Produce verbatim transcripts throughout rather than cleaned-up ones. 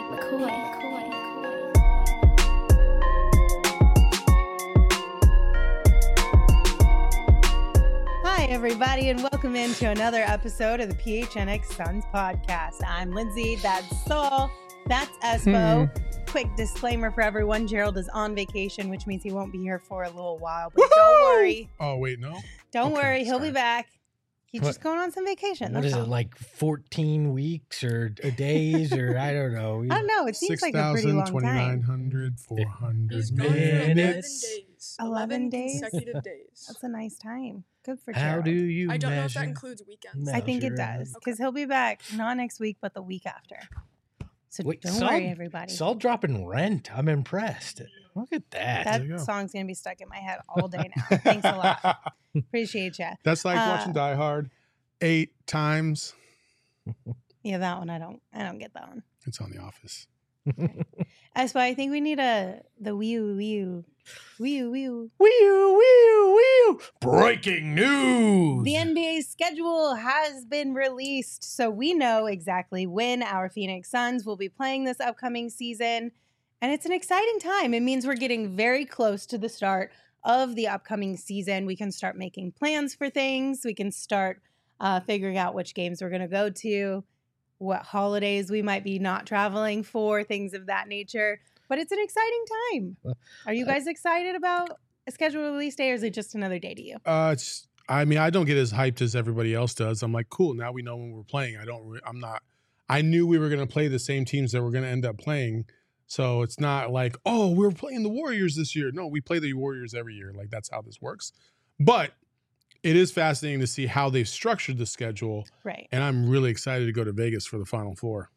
McCoy. McCoy. Hi, everybody, and welcome into another episode of the P H N X Suns podcast. I'm Lindsay. That's Saul. That's Espo. Quick disclaimer for everyone. Gerald is on vacation, which means he won't be here for a little while. But Woo-hoo! don't worry. Oh, wait, no? Don't Okay, worry. He'll sorry. be back. He's What- just going on some vacation. What that's is it, all. like fourteen weeks or or days or I don't know. I don't know. It seems like a pretty long twenty-nine time. hundred, four hundred He's gone for eleven Minutes. days. eleven days? consecutive days. That's a nice time. Good for How Gerald. do you I don't know if measure? that includes weekends. I think it measure does Okay. because he'll be back not next week, but the week after. So Wait, don't Saul- worry, everybody. Saul dropping Rent. I'm impressed. Look at that. That There you go. song's going to be stuck in my head all day now. Thanks a lot. Appreciate you. That's like Uh, watching Die Hard eight times. Yeah, that one I don't I don't get that one. It's on The Office. As but I think we need a the wee wee wee wee. Wee wee wee. Breaking news. The N B A schedule has been released, so we know exactly when our Phoenix Suns will be playing this upcoming season. And it's an exciting time. It means we're getting very close to the start of the upcoming season. We can start making plans for things. We can start uh, figuring out which games we're going to go to, what holidays we might be not traveling for, things of that nature. But it's an exciting time. Are you guys excited about a scheduled release day, or is it just another day to you? Uh, it's. I mean, I don't get as hyped as everybody else does. I'm like, cool. Now we know when we're playing. I don't. Re- I'm not. I knew we were going to play the same teams that we're going to end up playing. So it's not like, oh, we're playing the Warriors this year. No, we play the Warriors every year. Like that's how this works. But it is fascinating to see how they've structured the schedule, Right. and I'm really excited to go to Vegas for the Final Four.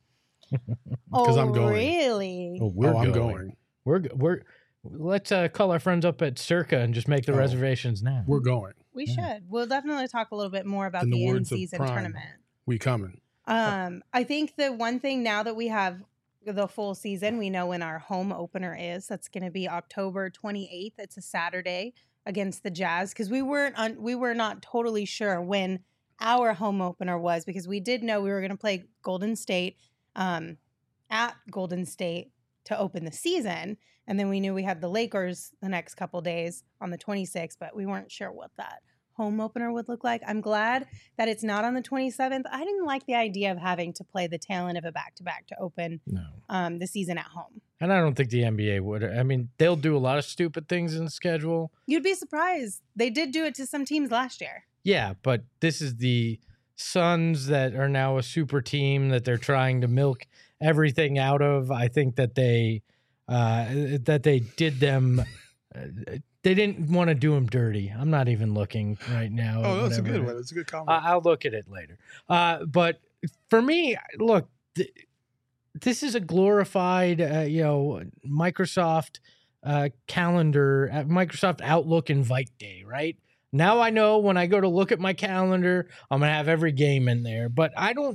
Oh, I'm going. really? Oh, we're oh, I'm going. going. We're go- we're let's uh, call our friends up at Circa and just make the Oh. reservations now. We're going. We Yeah. should. We'll definitely talk a little bit more about In the the words of in-season Prime. tournament. We coming. Um, I think the one thing now that we have the full season, we know when our home opener is. That's going to be October twenty-eighth. It's a Saturday against the Jazz because we weren't un- we were not totally sure when our home opener was because we did know we were going to play Golden State um, at Golden State to open the season, and then we knew we had the Lakers the next couple days on the twenty-sixth, but we weren't sure what that home opener would look like. I'm glad that it's not on the twenty-seventh. I didn't like the idea of having to play the tail end of a back-to-back to open No. um, the season at home. And I don't think the N B A would. I mean, they'll do a lot of stupid things in the schedule. You'd be surprised. They did do it to some teams last year. Yeah, but this is the Suns that are now a super team that they're trying to milk everything out of. I think that they uh, that they did them. Uh, they didn't want to do them dirty. I'm not even looking right now. Oh, at that's a whatever. good one. That's a good comment. Uh, I'll look at it later. Uh, but for me, look, th- this is a glorified, uh, you know, Microsoft uh, calendar, uh, Microsoft Outlook invite day, right? Now I know when I go to look at my calendar, I'm gonna have every game in there. But I don't,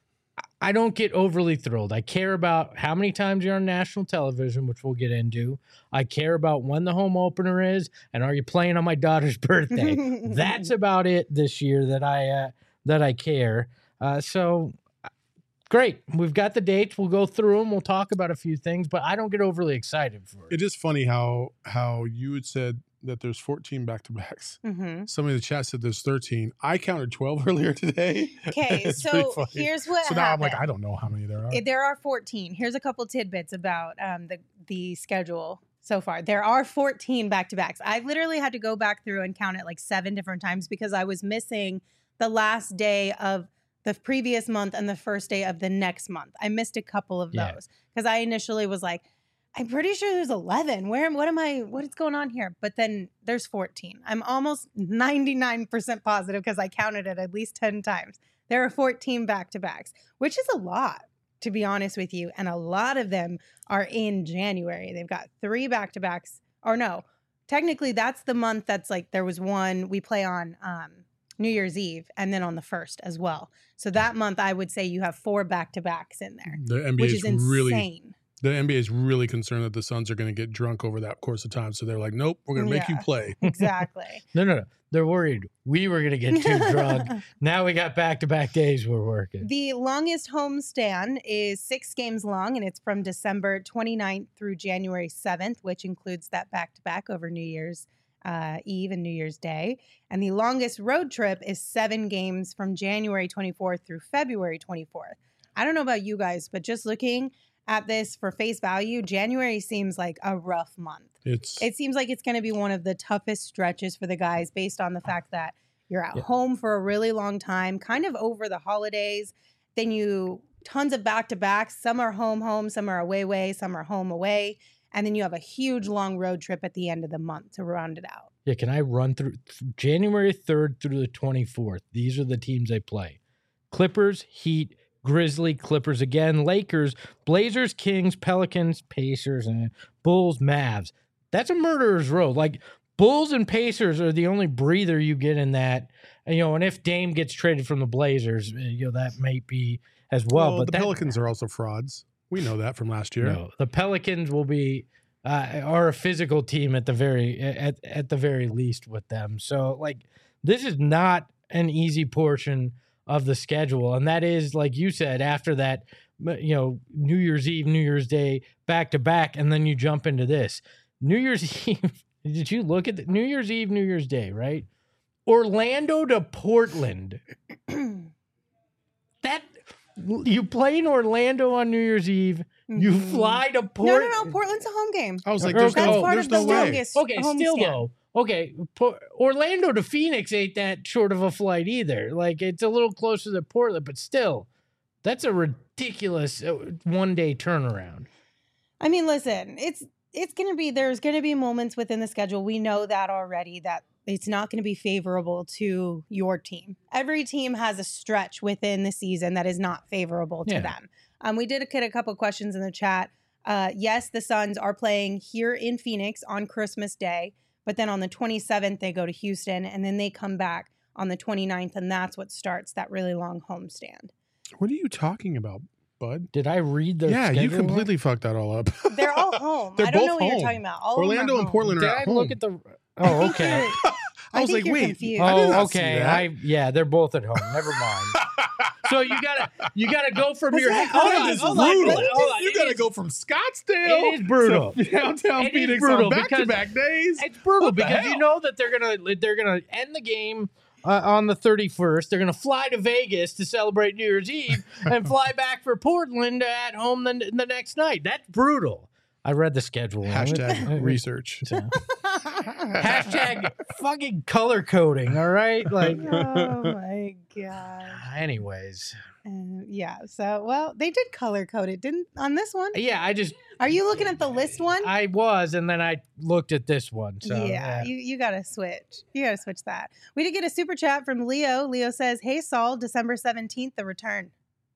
I don't get overly thrilled. I care about how many times you're on national television, which we'll get into. I care about when the home opener is, and are you playing on my daughter's birthday? That's about it this year that I uh, that I care. Uh, so great, we've got the dates. We'll go through them. We'll talk about a few things, but I don't get overly excited for it. It is funny how how you had said that there's fourteen back-to-backs. Mm-hmm. Somebody in the chat said there's thirteen. I counted twelve earlier today. Okay, It's pretty so funny. here's what So now I'm happened. like, I don't know how many there are. Eh, There are fourteen. Here's a couple tidbits about um, the the schedule so far. There are fourteen back-to-backs. I literally had to go back through and count it like seven different times because I was missing the last day of the previous month and the first day of the next month. I missed a couple of Yeah. those because I initially was like, I'm pretty sure there's eleven. Where what am I what is going on here? But then there's fourteen. I'm almost ninety-nine percent positive because I counted it at least ten times. There are fourteen back-to-backs, which is a lot, to be honest with you. And a lot of them are in January. They've got three back-to-backs. Or no, technically that's the month that's like there was one we play on um, New Year's Eve and then on the first as well. So that month I would say you have four back-to-backs in there, The N B A which is is insane. really The N B A is really concerned that the Suns are going to get drunk over that course of time. So they're like, nope, we're going to make Yeah. you play. Exactly. No, no, no. They're worried we were going to get too drunk. Now we got back-to-back days we're working. The longest homestand is six games long, and it's from December twenty-ninth through January seventh, which includes that back-to-back over New Year's uh, Eve and New Year's Day. And the longest road trip is seven games from January twenty-fourth through February twenty-fourth. I don't know about you guys, but just looking at this for face value, January seems like a rough month. It's It seems like it's going to be one of the toughest stretches for the guys based on the fact that you're at Yeah. home for a really long time, kind of over the holidays. Then you tons of back to backs. Some are home, home, some are away, way, some are home, away. And then you have a huge long road trip at the end of the month to round it out. Yeah, can I run through January third through the twenty-fourth? These are the teams they play. Clippers, Heat, Grizzly, Clippers again, Lakers, Blazers, Kings, Pelicans, Pacers, and Bulls, Mavs. That's a murderer's row. Like, Bulls and Pacers are the only breather you get in that. And, you know, and if Dame gets traded from the Blazers, you know, that might be as well. well, but the that, Pelicans are also frauds. We know that from last year. No, the Pelicans will be uh, are a physical team at the very at at the very least with them. So like this is not an easy portion of the schedule, and that is like you said after that, you know, New Year's Eve, New Year's Day, back to back, and then you jump into this New Year's Eve. Did you look at the New Year's Eve, New Year's Day, right? Orlando to Portland. That you play in Orlando on New Year's Eve. You Mhm. fly to No, Portland. no, no. Portland's a home game. I was like, Okay. there's That's no, part there's of the no way. longest Okay, still homestand. though. Okay, Po- Orlando to Phoenix ain't that short of a flight either. Like it's a little closer to Portland, but still, that's a ridiculous uh, one day turnaround. I mean, listen, it's it's going to be there's going to be moments within the schedule. We know that already that it's not going to be favorable to your team. Every team has a stretch within the season that is not favorable to Yeah. them. Um, we did get a couple questions in the chat. Uh, yes, the Suns are playing here in Phoenix on Christmas Day, but then on the twenty-seventh they go to Houston, and then they come back on the twenty-ninth, and that's what starts that really long homestand. What are you talking about, bud? Did I read the? Yeah, you schedule? completely fucked that all up. They're all home. They're I don't both know what you're home. talking about. All of them are Orlando and home. Portland Did are I at home. look at the? I Oh, think okay. you're- I was think like, you're wait. confused. I did Oh, not see okay. that. I yeah, they're both at home. Never mind. So you gotta you gotta go from That's your not hold correct. on, This is hold on, brutal. hold on, hold on. You It got to is- go from Scottsdale. It is brutal. to downtown It is Phoenix brutal on because- back-to-back days. It's brutal What the because you hell? know that they're gonna they're gonna end the game uh, on the thirty-first. They're gonna fly to Vegas to celebrate New Year's Eve and fly back for Portland at home the, the next night. That's brutal. I read the schedule. Hashtag research. So, hashtag fucking color coding. All right, like. Oh my god. Anyways, Uh, yeah. So, well, they did color code it, didn't on this one? yeah, I just Are you looking at the list one? I was, and then I looked at this one. So yeah, you you gotta switch. You gotta switch that. We did get a super chat from Leo. Leo says, "Hey Saul, December seventeenth, the return."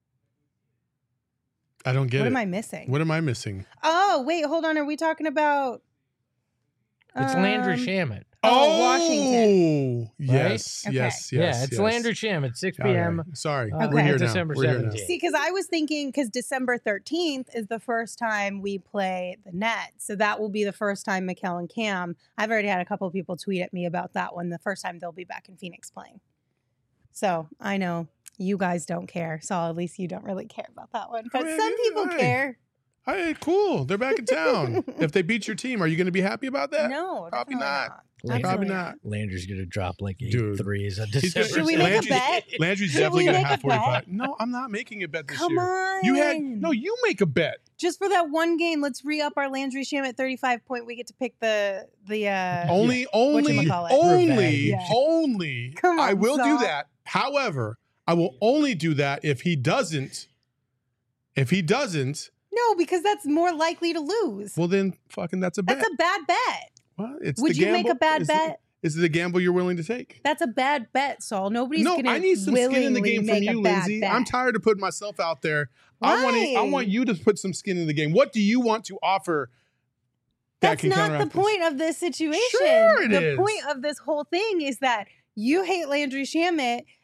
I don't get what it. am I missing? What am I missing? Oh, wait, hold on. Are we talking about? it's Landry um, Shamit. Oh, Washington. Oh, yes, Okay. yes, yes. yeah, it's yes. Landry Shamit, six All right. p.m. Sorry, Uh, we're here now. December We're here now. seventeenth. See, because I was thinking, because December thirteenth is the first time we play the Nets. So that will be the first time Mikal and Cam. I've already had a couple of people tweet at me about that one, the first time they'll be back in Phoenix playing. So I know you guys don't care. So at least you don't really care about that one. But All right, some people all right. care. Hey, cool. They're back in town. If they beat your team, are you going to be happy about that? No, Probably definitely not. Landry- Probably Absolutely not. Landry's gonna drop like eight Dude. threes on He's gonna- December. Should we make a Landry's- bet? Landry's Should definitely we going to make have a bet? forty-five. No, I'm not making a bet this Come year. on. You had no. You make a bet. Just for that one game, let's re-up our Landry Shamit thirty-five point. We get to pick the the uh Only, only, Whatchamacallit? only, Revenge. only. Come I on, will Saul. do that. However, I will only do that if he doesn't. If he doesn't, No, because that's more likely to lose. well then, fucking, that's a bet. That's a bad bet. well, it's Would the you make gamble. a bad Is bet? It, is it a gamble you're willing to take? That's a bad bet, Saul. Nobody's No, gonna I need some skin in the willingly game from make a you, bad Lindsay. bet. I'm tired of putting myself out there. I want to, I Why? want you to put some skin in the game. What do you want to offer? that That's can not the counteract this? point of this situation. Sure it the is. point of this whole thing is that you hate Landry Shamit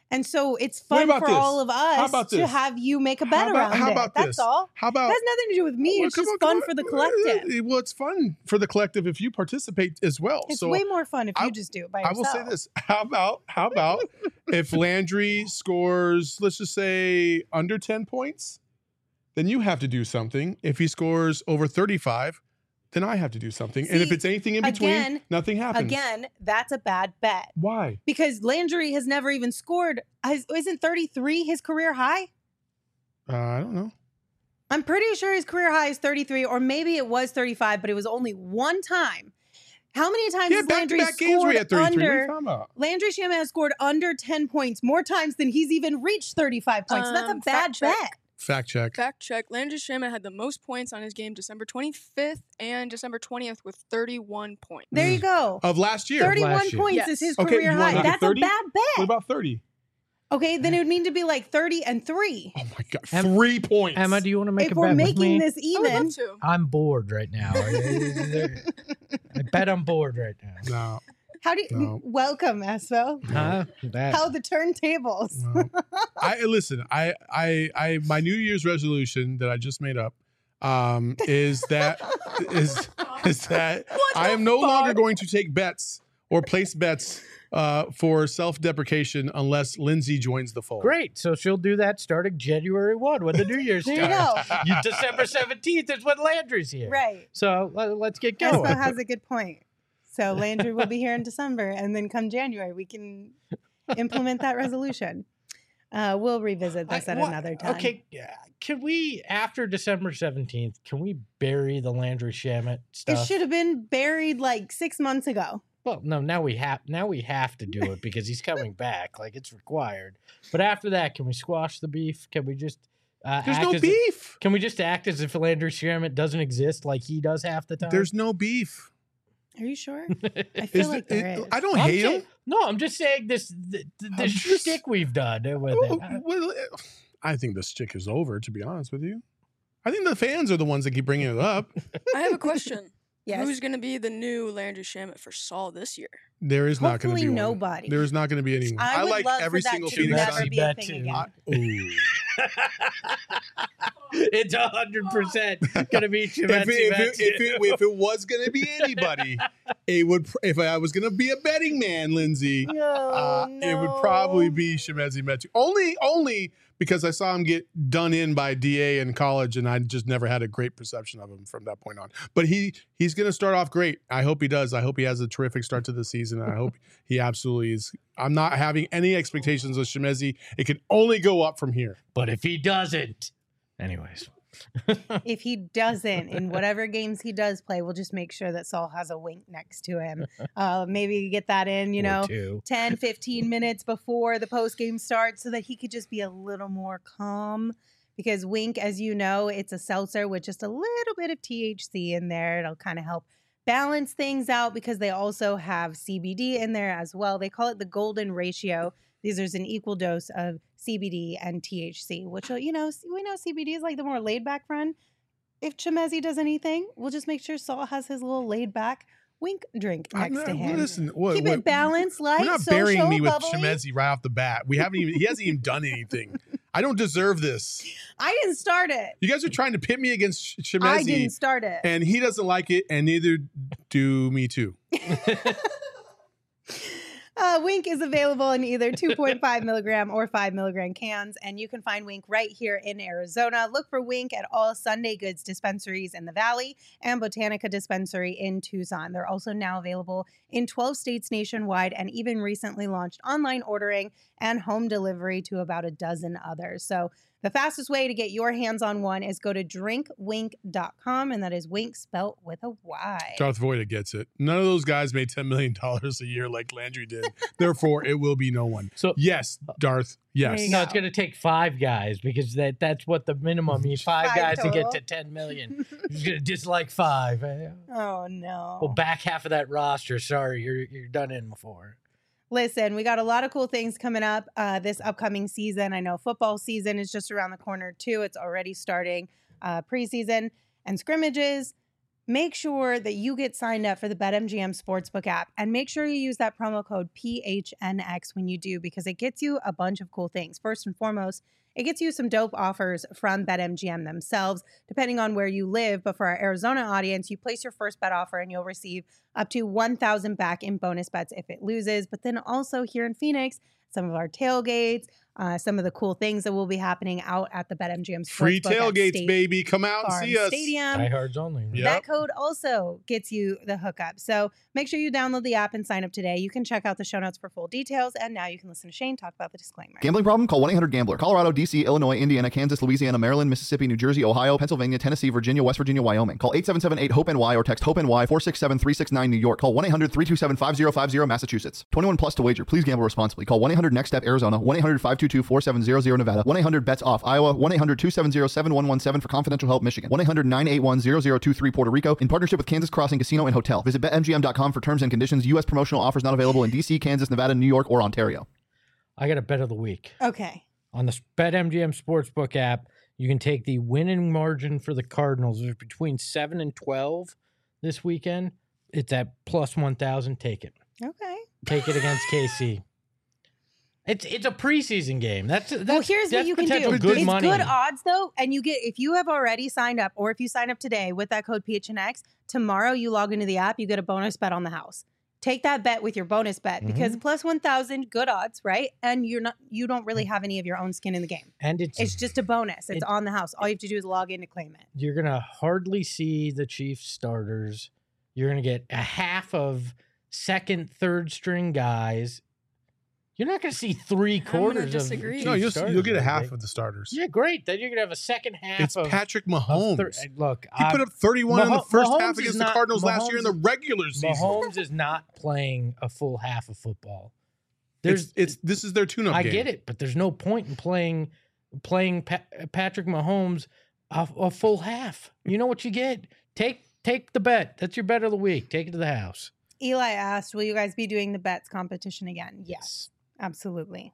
And so it's What fun about for this? all of us about to this? have you make a How bet about- around how it. about That's this? all. How It about has nothing to do with me. Well, It's come just on, come fun on. for the collective. Uh, Well, it's fun for the collective if you participate as well. It's so way more fun if I- you just do it by I yourself. will say this: how about how about if Landry scores, let's just say under ten points, then you have to do something. If he scores over thirty-five, then I have to do something. and if See, it's anything in between, again- nothing happens. Again, that's a bad bet Why? because Landry has never even scored. Has- Isn't thirty-three his career high? Uh, I don't know. I'm pretty sure his career high is thirty-three, or maybe it was thirty-five, but it was only one time. How many times Yeah, has back to Landry back games where he scored had thirty-three. What are you under? talking about? Landry Shamet has scored under ten points more times than he's even reached thirty-five points. So that's a Um, bad fact check. bet. Fact check. Fact check. Landry Shamet had the most points on his game December twenty-fifth and December twentieth with thirty-one points. There you go. Of last year. thirty-one last year. points Yes. is his Okay, career you wanna high. look at That's a thirty? bad What bet. about thirty? Okay, then it would need to be like thirty and three. Oh my god, Em- three points. Emma, do you want to make If a we're bet with making me? this I would even, love to. I'm bored right now. I bet I'm bored right now. No. how do you No. welcome Espo? Huh? That, How the turntables? No. I listen. I, I, I, my New Year's resolution that I just made up um, is that is is that I am no longer going to take bets or place bets uh, for self-deprecation unless Lindsay joins the fold. Great. So she'll do that starting January first when the New Year There you starts. go. You December seventeenth is when Landry's here. Right. So let, let's get going. Espo has a good point. So Landry will be here in December, and then come January, we can implement that resolution. Uh, we'll revisit this I- at what- another time. Okay, yeah, can we, after December seventeenth, can we bury the Landry Shamet It stuff? should have been buried like six months ago. Well, no, now we have now we have to do it because he's coming back. Like it's required. But after that, can we squash the beef? Can we just uh, There's act no as if- beef. can we just act as if Landry Shamet doesn't exist like he does half the time? There's no beef. Are you sure? I feel Is like it- there it- is. I don't I'm hate saying- him. No, I'm just saying this the, the, I'm this just- shtick we've done with Oh, it. well, I think the stick is over. To be honest with you, I think the fans are the ones that keep bringing it up. I have a question. Yes. Who's going to be the new Landry Shamet for Saul this year? There is not going to Hopefully be nobody. One. There is not going to be anyone. I would like love every for that single to Phoenix never Suns. be a That thing too. again. I- ooh. It's a hundred percent gonna be if, it, if, it, if, it, if it was going to be anybody, it would. pr- If I was going to be a betting man, Lindsay, No, uh, no. it would probably be Shemezi Metu. Only, only because I saw him get done in by D A in college, and I just never had a great perception of him from that point on. But he he's going to start off great. I hope he does. I hope he has a terrific start to the season. I hope he absolutely is. I'm not having any expectations of Shemezi. It can only go up from here. But if he doesn't, anyways. If he doesn't, in whatever games he does play, we'll just make sure that Saul has a wink next to him. Uh, maybe get that in, you Or know, two. ten, fifteen minutes before the post game starts so that he could just be a little more calm. Because Wink, as you know, it's a seltzer with just a little bit of T H C in there. It'll kind of help balance things out because they also have C B D in there as well. They call it the golden ratio. These are an equal dose of C B D and T H C, which, will, you know, we know C B D is like the more laid back friend. If Chemezi does anything, we'll just make sure Saul has his little laid back Wink drink I'm next to not- him. Listen, what, Keep what- it balanced, light, We're not social, burying me with bubbly. Shemezi right off the bat. We haven't even. He hasn't even done anything. I don't deserve this. I didn't start it. You guys are trying to pit me against Sh- I Shemezi, didn't start it. and he doesn't like it, and neither do me too. Uh, Wink is available in either two point five milligram or five milligram cans, and you can find Wink right here in Arizona. Look for Wink at all Sunday Goods dispensaries in the Valley and Botanica Dispensary in Tucson. They're also now available in twelve states nationwide and even recently launched online ordering and home delivery to about a dozen others. So the fastest way to get your hands on one is go to drink wink dot com, and that is Wink spelt with a Y. Darth Voida gets it. None of those guys made ten million dollars a year like Landry did. Therefore, it will be no one. So Yes, Darth. Yes. There you no, go. it's gonna take five guys because that that's what the minimum. You need five, Five guys to get total. to ten million. He's gonna dislike five. Eh, Oh, no. Well, back half of that roster. Sorry, you're you're done in before. Listen, we got a lot of cool things coming up uh, this upcoming season. I know football season is just around the corner, too. It's already starting uh, preseason and scrimmages. make sure that you get signed up for the BetMGM Sportsbook app, and make sure you use that promo code P H N X when you do, because it gets you a bunch of cool things. First and foremost, it gets you some dope offers from BetMGM themselves, depending on where you live. But for our Arizona audience, you place your first bet offer and you'll receive up to one thousand back in bonus bets if it loses. But then also here in Phoenix, some of our tailgates, uh, some of the cool things that will be happening out at the BetMGM Sportsbook Free at tailgates, State baby. Come out and Farm see us. Stadium. Diehards only. Right? Yep. That code also gets you the hookup. So make sure you download the app and sign up today. You can check out the show notes for full details. And now you can listen to Shane talk about the disclaimer. Gambling problem? Call one eight hundred gambler. Colorado, D C, Illinois, Indiana, Kansas, Louisiana, Maryland, Mississippi, New Jersey, Ohio, Pennsylvania, Tennessee, Virginia, West Virginia, Wyoming. Call eight seven seven eight hope N Y or text HOPE-NY four six seven three six nine New York. Call one eight hundred three two seven five zero five zero Massachusetts. twenty-one plus to wager. Please gamble responsibly. Call one eight hundred next step Arizona, one eight hundred five two two four seven zero zero Nevada, one eight hundred bets off Iowa, one eight hundred two seven zero seven one one seven for confidential help Michigan, one eight hundred nine eight one zero zero two three Puerto Rico, in partnership with Kansas Crossing Casino and Hotel. Visit bet M G M dot com for terms and conditions. U S promotional offers not available in D C, Kansas, Nevada, New York, or Ontario. I got a bet of the week. Okay. On the BetMGM Sportsbook app, you can take the winning margin for the Cardinals. It's between seven and twelve this weekend. It's at plus one thousand. Take it. Okay. Take it against K C. It's it's a preseason game. That's, that's Well, here's that's what you can potential do. Good it's money. good odds, though. And you get, if you have already signed up, or if you sign up today with that code P H N X, tomorrow you log into the app, you get a bonus bet on the house. Take that bet with your bonus bet, because plus one thousand, good odds, right? And you're not, you don't really have any of your own skin in the game. And it's It's just a bonus. It's it- on the house. All you have to do is log in to claim it. you're gonna hardly see the Chiefs starters. You're gonna get a half of second, third string guys. You're not gonna see three gonna quarters of disagree. No, Chiefs you'll, starters, you'll get a I half think. of the starters. Yeah, great. Then you're gonna have a second half. It's of, Patrick of Mahomes. thir- look, he put I- up thirty-one in the Maho- first Mahomes half is against not- the Cardinals last year in the Mahomes- regular season. Mahomes is not playing a full half of football. There's It's, it's this is their tune-up I game. get it, but there's no point in playing playing pa- Patrick Mahomes a, a full half. You know what you get? Take take the bet. That's your bet of the week. Take it to the house. Eli asked, will you guys be doing the bets competition again? Yes, absolutely.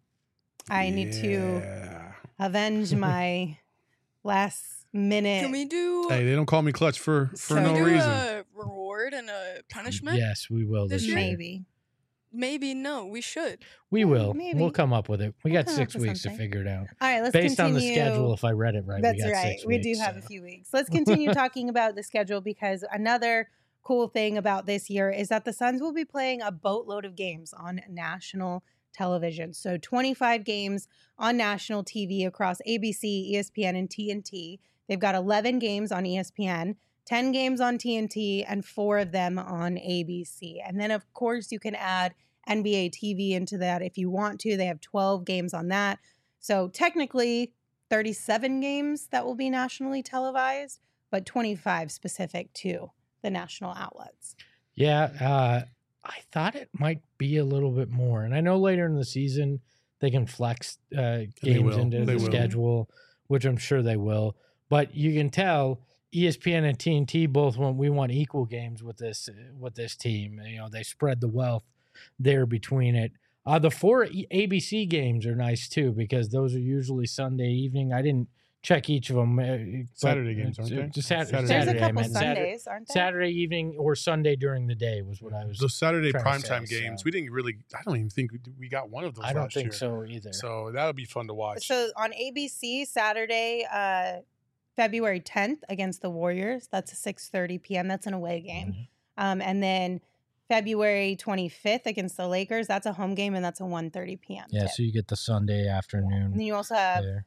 I need to Yeah. avenge my last minute. Can we do? Hey, they don't call me clutch for for can no we do reason. a reward and a punishment? Yes, we will this This year. year? Maybe. Maybe no. We should. We will. Maybe. We'll come up with it. We We'll got come up six with weeks something. to figure it out. All right, let's Based continue. on the schedule, if I read it right, That's we got right. six We weeks. do have a so. few weeks. Let's continue talking about the schedule, because another cool thing about this year is that the Suns will be playing a boatload of games on national television. So twenty-five games on national T V across A B C, E S P N, and T N T. They've got eleven games on E S P N, ten games on T N T, and four of them on A B C. And then, of course, you can add N B A T V into that if you want to. They have twelve games on that. So technically thirty-seven games that will be nationally televised, but twenty-five specific to the national outlets. Yeah, uh, I thought it might be a little bit more, and I know later in the season they can flex uh, They games will. into They the will. schedule, which I'm sure they will. But you can tell E S P N and T N T both want we want equal games with this with this team. You know, they spread the wealth there between it. Uh, the four A B C games are nice too, because those are usually Sunday evening. I didn't check each of them. uh, but Saturday games, aren't it's- they? it's Sat- Saturday. There's Saturday, a I couple meant. Saturday- Sundays, aren't there? Saturday evening or Sunday during the day was what I was. Those Saturday trying to primetime say, games, so. we didn't really. I don't even think we, we got one of those. I don't last think year. so either. So that'll be fun to watch. So on A B C, Saturday, uh, February tenth against the Warriors. That's a six thirty p.m. That's an away game. Mhm. Um, and then February twenty-fifth against the Lakers. That's a home game, and that's a one thirty p.m. Yeah, tip. so you get the Sunday And afternoon then you also have there.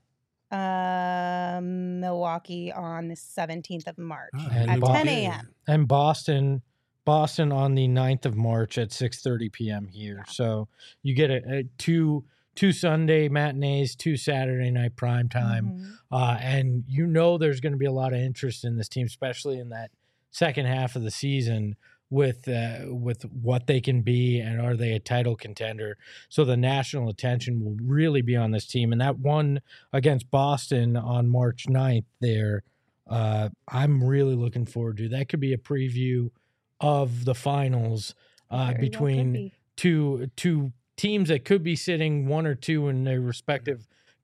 uh, Milwaukee on the seventeenth of March Ah, And at Bo- ten a.m. And Boston, Boston on the ninth of March at six thirty p.m. here. Yeah. So you get a, a two two Sunday matinees, two Saturday night prime time. Mhm. Uh, and you know there's going to be a lot of interest in this team, especially in that second half of the season with uh, with what they can be and are they a title contender. So the national attention will really be on this team. And that one against Boston on March ninth there, uh, I'm really looking forward to. That could be a preview of the finals uh, Very well could between be. two two teams that could be sitting one or two in their respective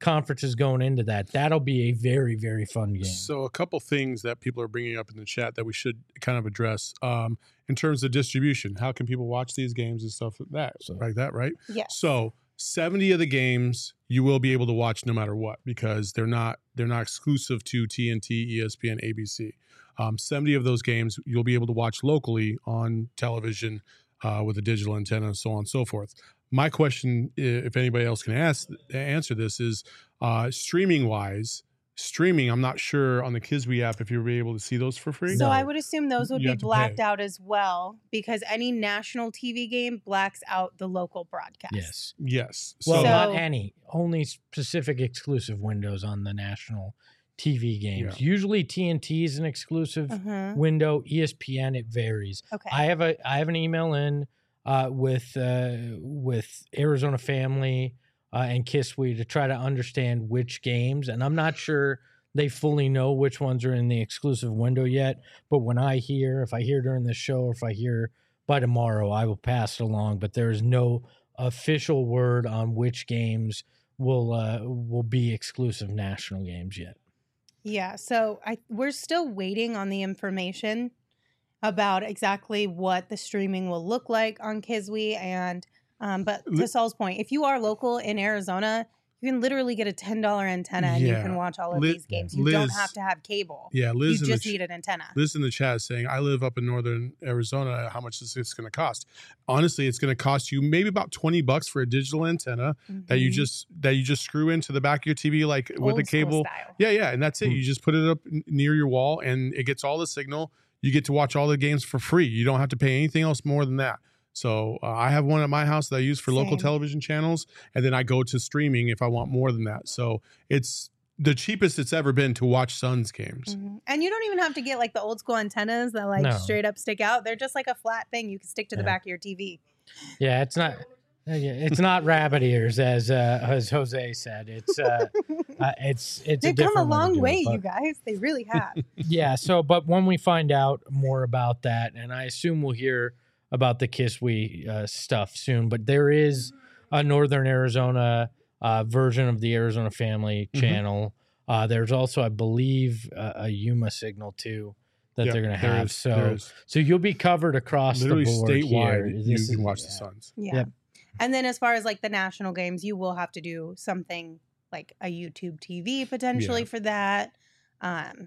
conferences going into that. That'll be a very, very fun game. So a couple things that people are bringing up in the chat that we should kind of address um, in terms of distribution. How can people watch these games and stuff like that? So- like that, right? Yes. So seventy of the games you will be able to watch no matter what because they're not they're not exclusive to T N T, E S P N, A B C. Um, seventy of those games you'll be able to watch locally on television uh, with a digital antenna and so on and so forth. My question, i- if anybody else can ask answer this, is uh, streaming wise. Streaming, I'm not sure on the Kiswe app if you'll be able to see those for free. So No. I would assume those would You be have to blacked pay. out as well because any national T V game blacks out the local broadcast. Yes. Yes. Well, So, not So- any. Only specific exclusive windows on the national T V games. Yeah. Usually T N T is an exclusive Uh-huh. window. E S P N, it varies. Okay. I have a I have an email in uh, with uh, with Arizona Family uh, and Kiswe to try to understand which games, and I'm not sure they fully know which ones are in the exclusive window yet. But when I hear, if I hear during the show, or if I hear by tomorrow, I will pass it along. But there is no official word on which games will uh, will be exclusive national games yet. Yeah, so I we're still waiting on the information about exactly what the streaming will look like on Kiswe and um, but to Li- Saul's point, if you are local in Arizona, you can literally get a ten dollar antenna and you Yeah. can watch all of Li- these games. You don't Liz- have to have cable. yeah, You Liz in the just ch- need an antenna. Liz in the chat is saying, I live up in northern Arizona. How much is this going to cost? Honestly, it's going to cost you maybe about twenty bucks for a digital antenna that you Mhm. just that you just screw into the back of your T V like with a Old school cable. style. Yeah, yeah, and that's it. Hmm. You just put it up n- near your wall and it gets all the signal. You get to watch all the games for free. You don't have to pay anything else more than that. So uh, I have one at my house that I use for local Same. television channels, and then I go to streaming if I want more than that. So it's the cheapest it's ever been to watch Suns games. Mhm. And you don't even have to get like the old school antennas that like No. straight up stick out. They're just like a flat thing you can stick to the Yeah. back of your T V. Yeah, it's not. uh, yeah, It's not rabbit ears, as uh, as Jose said. It's uh, uh, it's it's. They've a come a different to long do it, way, but- you guys. They really have. Yeah. So, but when we find out more about that, and I assume we'll hear about the Kiswe uh, stuff soon, but there is a Northern Arizona uh, version of the Arizona Family Mhm. channel. Uh, there's also, I believe, uh, a Yuma signal too that Yeah, they're going to there have. is- so, there is. so you'll be covered across Literally the board here. statewide, you This can is- watch the yeah. Suns. Yeah. Yep. And then as far as like the national games, you will have to do something like a YouTube T V potentially Yeah. for that. Um,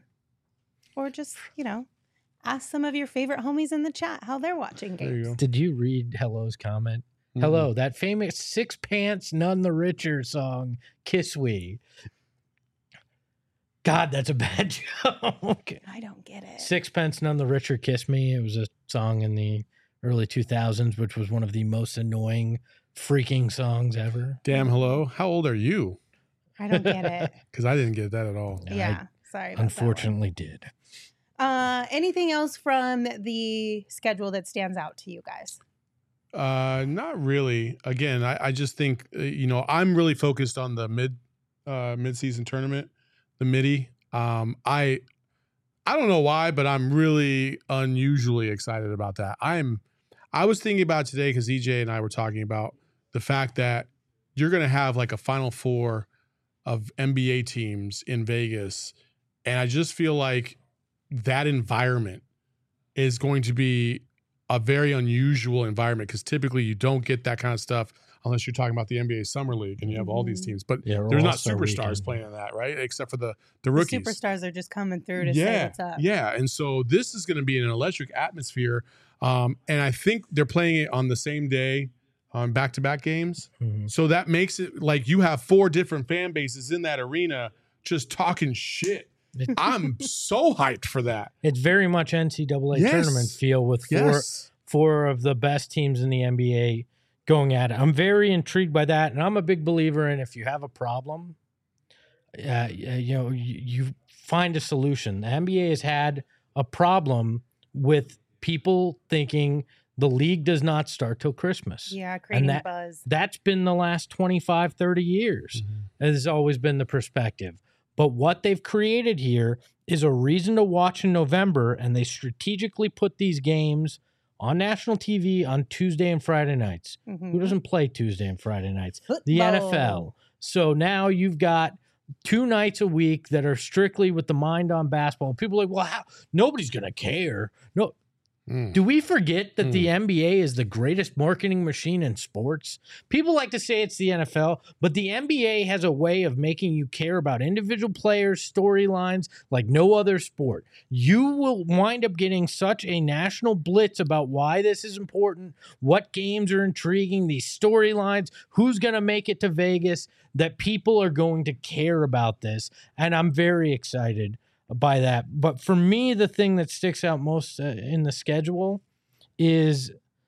or just, you know, ask some of your favorite homies in the chat how they're watching There you games. go. Did you read Hello's comment? Hello, that famous Six Pants None the Richer song, Kiswe. God, that's a bad joke. I don't get it. Sixpence None the Richer Kiss Me. It was a song in the early two thousands, which was one of the most annoying freaking songs ever. Damn, hello. How old are you? I don't get it. Because I didn't get that at all. I Yeah. Sorry. About Unfortunately, did. That one. Uh, anything else from the schedule that stands out to you guys? Uh, not really. Again, I, I just think uh, you know I'm really focused on the mid uh, mid season tournament, the midi. Um, I I don't know why, but I'm really unusually excited about that. I'm I was thinking about today because E J and I were talking about the fact that you're going to have like a Final Four of N B A teams in Vegas, and I just feel like that environment is going to be a very unusual environment because typically you don't get that kind of stuff unless you're talking about the N B A Summer League and you have all these Mhm. teams. But Yeah, or there's not All-Star superstars Weekend. playing in that, right? Except for the the The rookies. superstars are just coming through to say yeah, what's up. yeah. And so this is going to be an electric atmosphere. Um, and I think they're playing it on the same day on back-to-back games. Mhm. So that makes it like you have four different fan bases in that arena just talking shit. It- I'm so hyped for that. It's very much N C double A Yes. tournament feel with four Yes. four of the best teams in the N B A going at it. I'm very intrigued by that, and I'm a big believer in if you have a problem, uh, you know, you, you find a solution. The N B A has had a problem with people thinking the league does not start till Christmas. Yeah, creating that- buzz. That's been the last twenty-five, thirty years. Has always been the perspective. But what they've created here is a reason to watch in November, and they strategically put these games on national T V on Tuesday and Friday nights. Mhm. Who doesn't play Tuesday and Friday nights? The N F L. Football. So now you've got two nights a week that are strictly with the mind on basketball. People are like, well, how? Nobody's going to care. No. Mm. Do we forget that Mm. the N B A is the greatest marketing machine in sports? People like to say it's the N F L, but the N B A has a way of making you care about individual players, storylines like no other sport. You will wind up getting such a national blitz about why this is important, what games are intriguing, these storylines, who's going to make it to Vegas, that people are going to care about this. And I'm very excited by that. But for me, the thing that sticks out most uh, in the schedule is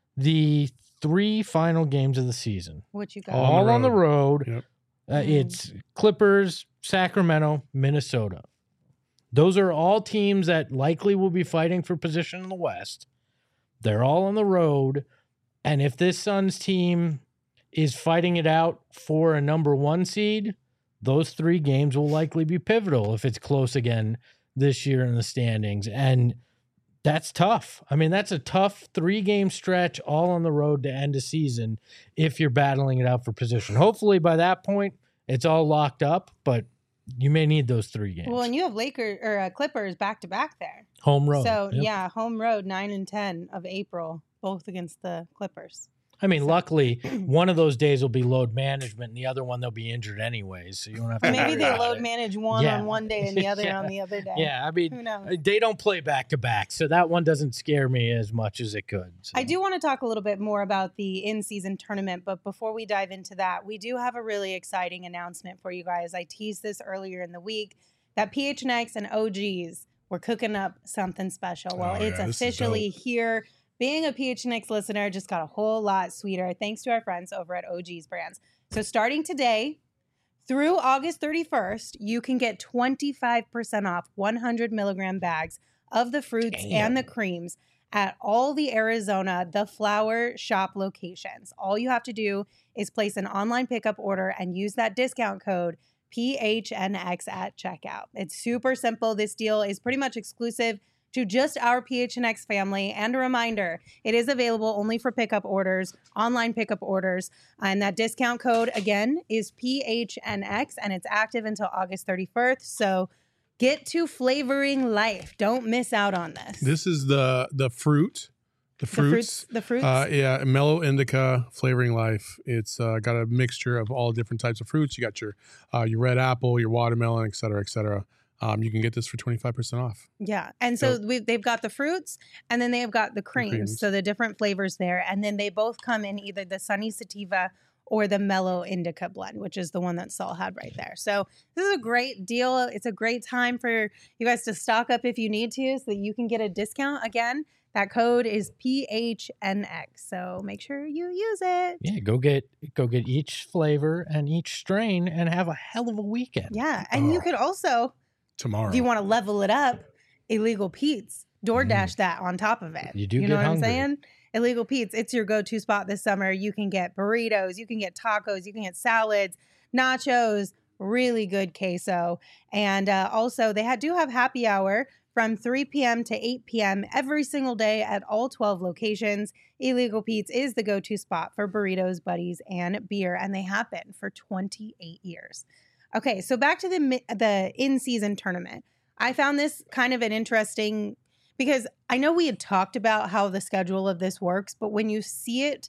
the three final games of the season. What you got? All All on the road. Yep. Uh, Mm. It's Clippers, Sacramento, Minnesota. Those are all teams that likely will be fighting for position in the West. They're all on the road. And if this Suns team is fighting it out for a number one seed, those three games will likely be pivotal if it's close again this year in the standings. And that's tough. I mean, that's a tough three-game stretch all on the road to end a season if you're battling it out for position. Hopefully by that point, it's all locked up, but you may need those three games. Well, and you have Lakers or uh, Clippers back to back there. Home road. So Yep. yeah, home road nine and ten of April, both against the Clippers. I mean, So- luckily, one of those days will be load management, and the other one they'll be injured anyways, so you don't have to. Maybe worry they about load it. manage one Yeah. on one day and the other Yeah. on the other day. Yeah, I mean, Who knows? they don't play back to back, so that one doesn't scare me as much as it could. So. I do want to talk a little bit more about the in-season tournament, but before we dive into that, we do have a really exciting announcement for you guys. I teased this earlier in the week that P H N X and O Gs were cooking up something special. Well, Oh, it's yeah, this is officially dope. here. Being a P H N X listener just got a whole lot sweeter thanks to our friends over at O G's Brands. So starting today through August thirty-first, you can get twenty-five percent off one hundred milligram bags of the fruits Damn. and the creams at all the Arizona The Flower Shop locations. All you have to do is place an online pickup order and use that discount code P H N X at checkout. It's super simple. This deal is pretty much exclusive to just our P H N X family. And a reminder, it is available only for pickup orders, online pickup orders. And that discount code, again, is P H N X, and it's active until August thirty-first. So get to flavoring life. Don't miss out on this. This is the the fruit, the the fruits. fruits, the fruits. Uh, yeah, mellow indica flavoring life. It's uh, got a mixture of all different types of fruits. You got your uh, your red apple, your watermelon, et cetera, et cetera. Um, you can get this for twenty-five percent off. Yeah. And so So- we they've got the fruits and then they've got the creams. creams. So the different flavors there. And then they both come in either the Sunny Sativa or the Mellow Indica blend, which is the one that Saul had right there. So this is a great deal. It's a great time for you guys to stock up if you need to so that you can get a discount. Again, that code is P H N X. So make sure you use it. Yeah, go get go get each flavor and each strain and have a hell of a weekend. Yeah. And you Oh. could also, Tomorrow. if you want to level it up, Illegal Pete's. DoorDash that on top of it. You do know get what hungry. I'm saying? Illegal Pete's, it's your go-to spot this summer. You can get burritos, you can get tacos, you can get salads, nachos, really good queso. And uh, also, they had, do have happy hour from three p.m. to eight p.m. every single day at all twelve locations. Illegal Pete's is the go-to spot for burritos, buddies, and beer, and they have been for twenty-eight years. Okay, so back to the mi- the in-season tournament. I found this kind of an interesting, because I know we had talked about how the schedule of this works, but when you see it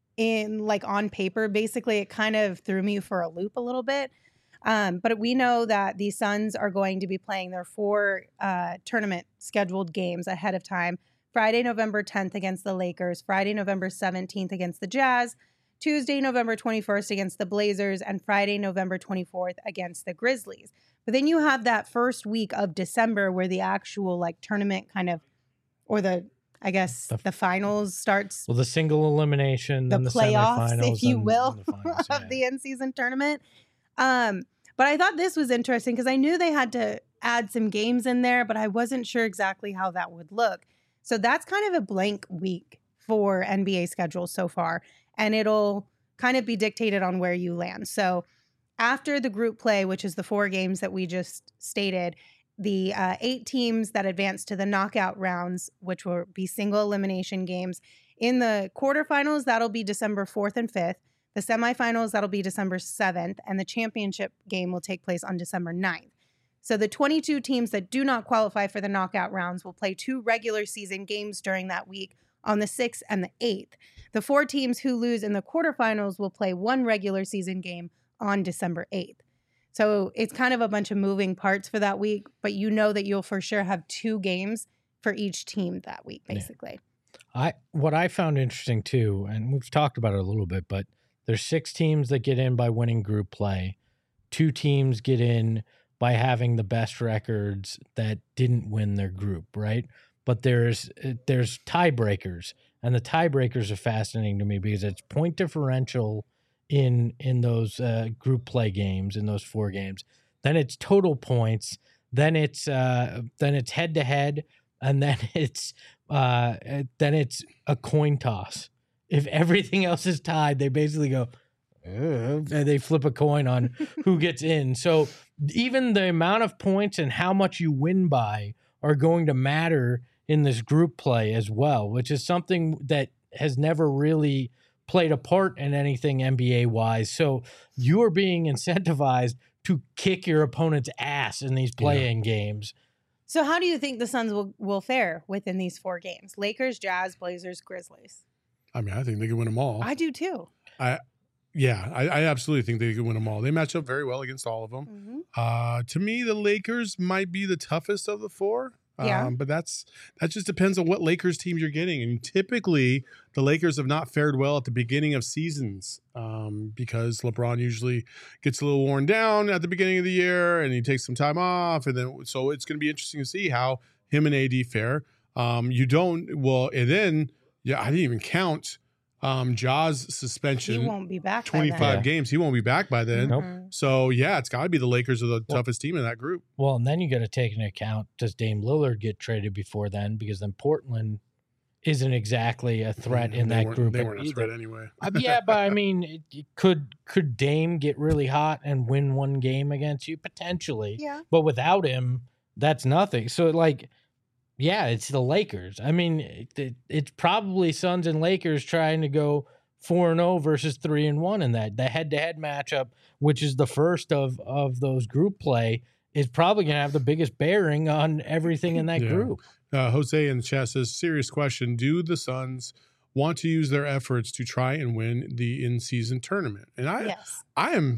in like on paper, basically it kind of threw me for a loop a little bit. Um, but we know that the Suns are going to be playing their four uh, tournament scheduled games ahead of time. Friday, November tenth against the Lakers, Friday, November seventeenth against the Jazz, Tuesday, November twenty-first against the Blazers, and Friday, November twenty-fourth against the Grizzlies. But then you have that first week of December where the actual like tournament kind of, or the, I guess, The- the finals starts, Well, the single elimination, the then the playoffs, semifinals, if you and- will, and the finals, of yeah. the in-season tournament. Um, but I thought this was interesting because I knew they had to add some games in there, but I wasn't sure exactly how that would look. So that's kind of a blank week for N B A schedules so far, and it'll kind of be dictated on where you land. So after the group play, which is the four games that we just stated, the uh, eight teams that advance to the knockout rounds, which will be single elimination games. In the quarterfinals, that'll be December fourth and fifth. The semifinals, that'll be December seventh, and the championship game will take place on December ninth. So the twenty-two teams that do not qualify for the knockout rounds will play two regular season games during that week on the sixth and the eighth. The four teams who lose in the quarterfinals will play one regular season game on December eighth. So it's kind of a bunch of moving parts for that week, but you know that you'll for sure have two games for each team that week, basically. Yeah. I what I found interesting too, and we've talked about it a little bit, but there's six teams that get in by winning group play. Two teams get in by having the best records that didn't win their group, right? But there's there's tiebreakers, and the tiebreakers are fascinating to me because it's point differential in in those uh, group play games, in those four games. Then it's total points. Then it's uh, then it's head to head, and then it's uh, then it's a coin toss. If everything else is tied, they basically go, and they flip a coin on who gets in. So even the amount of points and how much you win by are going to matter in this group play as well, which is something that has never really played a part in anything N B A wise. So you are being incentivized to kick your opponent's ass in these play-in yeah. games. So how do you think the Suns will, will fare within these four games? Lakers, Jazz, Blazers, Grizzlies. I mean, I think they can win them all. I do too. I Yeah, I, I absolutely think they can win them all. They match up very well against all of them. Mm-hmm. Uh, to me, the Lakers might be the toughest of the four. Yeah. Um, but that's that just depends on what Lakers team you're getting. And typically, the Lakers have not fared well at the beginning of seasons um, because LeBron usually gets a little worn down at the beginning of the year and he takes some time off. And then so it's going to be interesting to see how him and A D fare. Um, you don't well, and then yeah, I didn't even count. Um, Ja's suspension. He won't be back. twenty-five by then. games. He won't be back by then. Nope. So yeah, it's got to be the Lakers are the well, toughest team in that group. Well, and then you got to take into account, does Dame Lillard get traded before then? Because then Portland isn't exactly a threat mm, in that group. They weren't a threat anyway. uh, yeah, but I mean, it, it could could Dame get really hot and win one game against you potentially? Yeah. But without him, that's nothing. So like. Yeah, it's the Lakers. I mean, it, it, it's probably Suns and Lakers trying to go four and zero versus three and one in that. The head to head matchup, which is the first of of those group play, is probably going to have the biggest bearing on everything in that yeah. group. Uh, Jose in the chat says, serious question: do the Suns want to use their efforts to try and win the in season tournament? And I, yes. I am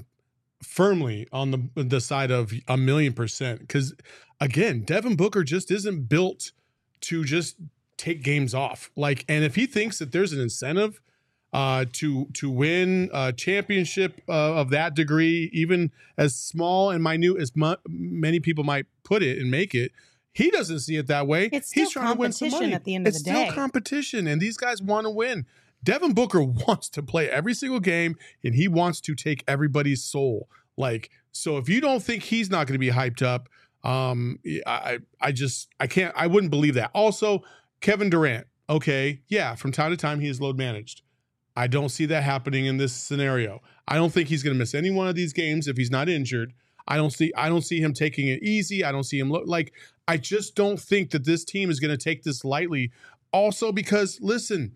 firmly on the the side of a million percent because. Again, Devin Booker just isn't built to just take games off. Like, and if he thinks that there's an incentive uh, to to win a championship uh, of that degree, even as small and minute as mu- many people might put it and make it, he doesn't see it that way. It's still He's trying to win some money. At the end it's of the day. still competition, and these guys want to win. Devin Booker wants to play every single game, and he wants to take everybody's soul. Like, so if you don't think he's not going to be hyped up, Um, I, I just, I can't, I wouldn't believe that. Also, Kevin Durant. Okay. Yeah. From time to time, he is load managed. I don't see that happening in this scenario. I don't think he's going to miss any one of these games if he's not injured. I don't see, I don't see him taking it easy. I don't see him lo- like, I just don't think that this team is going to take this lightly. Also, because listen,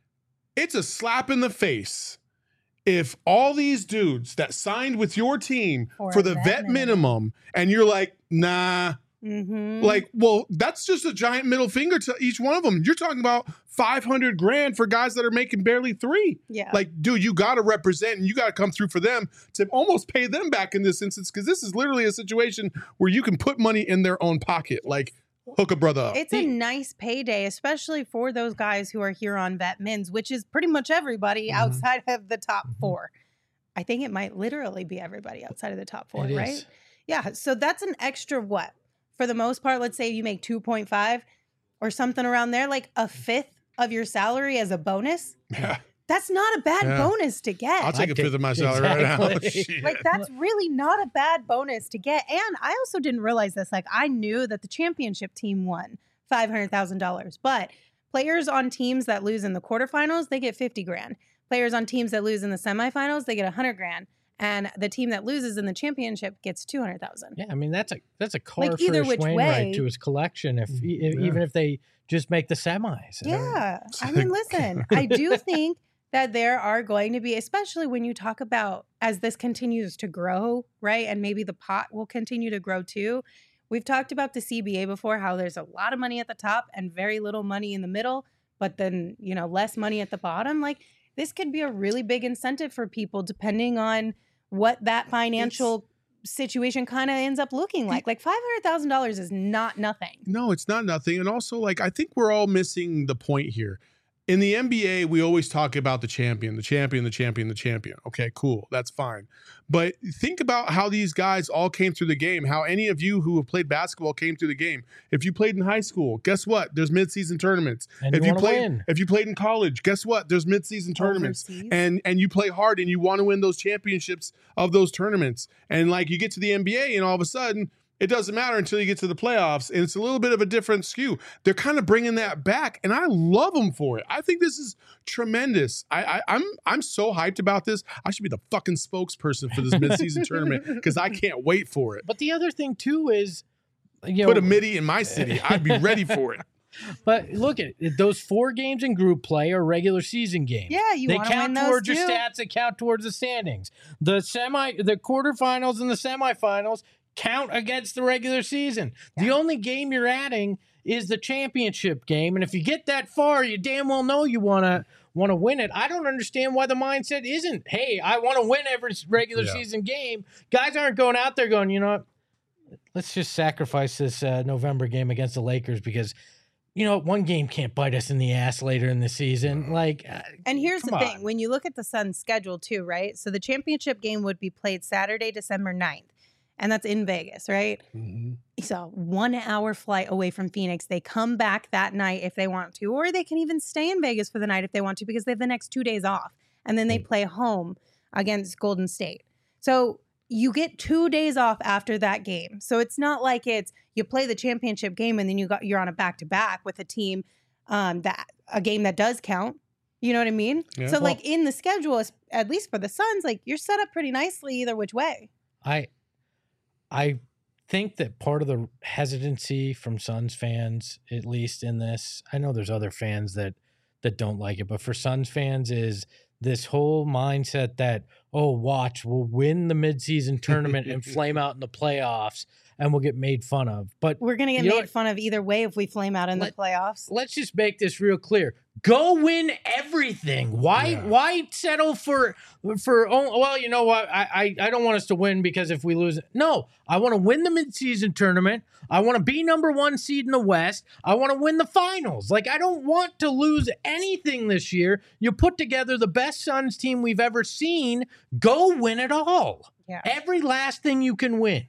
it's a slap in the face. If all these dudes that signed with your team or for the vet minimum. minimum and you're like, nah, mm-hmm. like, well, that's just a giant middle finger to each one of them. You're talking about five hundred grand for guys that are making barely three. Yeah. Like, dude, you got to represent and you got to come through for them to almost pay them back in this instance. Cause this is literally a situation where you can put money in their own pocket. Like, hook a brother up. It's a nice payday, especially for those guys who are here on vet mins, which is pretty much everybody mm-hmm. outside of the top mm-hmm. four. I think it might literally be everybody outside of the top four, it right? Is. Yeah. So that's an extra what? For the most part, let's say you make two point five or something around there, like a fifth of your salary as a bonus. Yeah. That's not a bad yeah. bonus to get. I'll take a fifth of my salary exactly. right now. Like, that's really not a bad bonus to get. And I also didn't realize this. Like, I knew that the championship team won five hundred thousand dollars. But players on teams that lose in the quarterfinals, they get fifty grand. Players on teams that lose in the semifinals, they get one hundred grand. And the team that loses in the championship gets two hundred thousand. Yeah, I mean, that's a that's a car like, for either which Wainwright way, to his collection, if, if yeah. even if they just make the semis. Yeah. I mean, listen, I do think that there are going to be, especially when you talk about as this continues to grow, right? And maybe the pot will continue to grow too. We've talked about the C B A before, how there's a lot of money at the top and very little money in the middle, but then, you know, less money at the bottom. Like, this could be a really big incentive for people depending on what that financial it's, situation kind of ends up looking like. Like five hundred thousand dollars is not nothing. No, it's not nothing. And also, like, I think we're all missing the point here. In the N B A, we always talk about the champion, the champion, the champion, the champion. Okay, cool. That's fine. But think about how these guys all came through the game, how any of you who have played basketball came through the game. If you played in high school, guess what? There's midseason tournaments. And if you you played win. if you played in college, guess what? There's midseason tournaments. Overseas. And and you play hard and you want to win those championships of those tournaments. And like you get to the N B A and all of a sudden it doesn't matter until you get to the playoffs, and it's a little bit of a different skew. They're kind of bringing that back, and I love them for it. I think this is tremendous. I, I, I'm I'm so hyped about this. I should be the fucking spokesperson for this midseason tournament because I can't wait for it. But the other thing too is, you Put know, a midi in my city. I'd be ready for it. but look at it, those four games in group play are regular season games. Yeah, you they want to win count those towards too. your stats. They count towards the standings. The semi, the quarterfinals and the semifinals count against the regular season. Yeah. The only game you're adding is the championship game, and if you get that far, you damn well know you want to want to win it. I don't understand why the mindset isn't, hey, I want to win every regular Yeah. season game. Guys aren't going out there going, you know what, let's just sacrifice this uh, November game against the Lakers because, you know, one game can't bite us in the ass later in the season. Like, uh, And here's the come thing, on. when you look at the Suns' schedule too, right? So the championship game would be played Saturday, December ninth. And that's in Vegas, right? Mm-hmm. So one hour flight away from Phoenix. They come back that night if they want to, or they can even stay in Vegas for the night if they want to because they have the next two days off. And then they play home against Golden State. So you get two days off after that game. So it's not like it's you play the championship game and then you got you're on a back-to-back with a team um, that a game that does count. You know what I mean? Yeah. So Well- like in the schedule, at least for the Suns, like you're set up pretty nicely either which way. I I think that part of the hesitancy from Suns fans, at least in this, I know there's other fans that that don't like it, but for Suns fans is this whole mindset that, oh, watch, we'll win the midseason tournament and flame out in the playoffs and we'll get made fun of. But We're going to get You know made what? fun of either way if we flame out in Let- the playoffs. let's just make this real clear. Go win everything. Why Yeah. why settle for for oh, well, you know what? I, I I don't want us to win because if we lose, no, I want to win the midseason tournament. I want to be number one seed in the West. I want to win the finals. Like, I don't want to lose anything this year. You put together the best Suns team we've ever seen. Go win it all. Yeah. Every last thing you can win.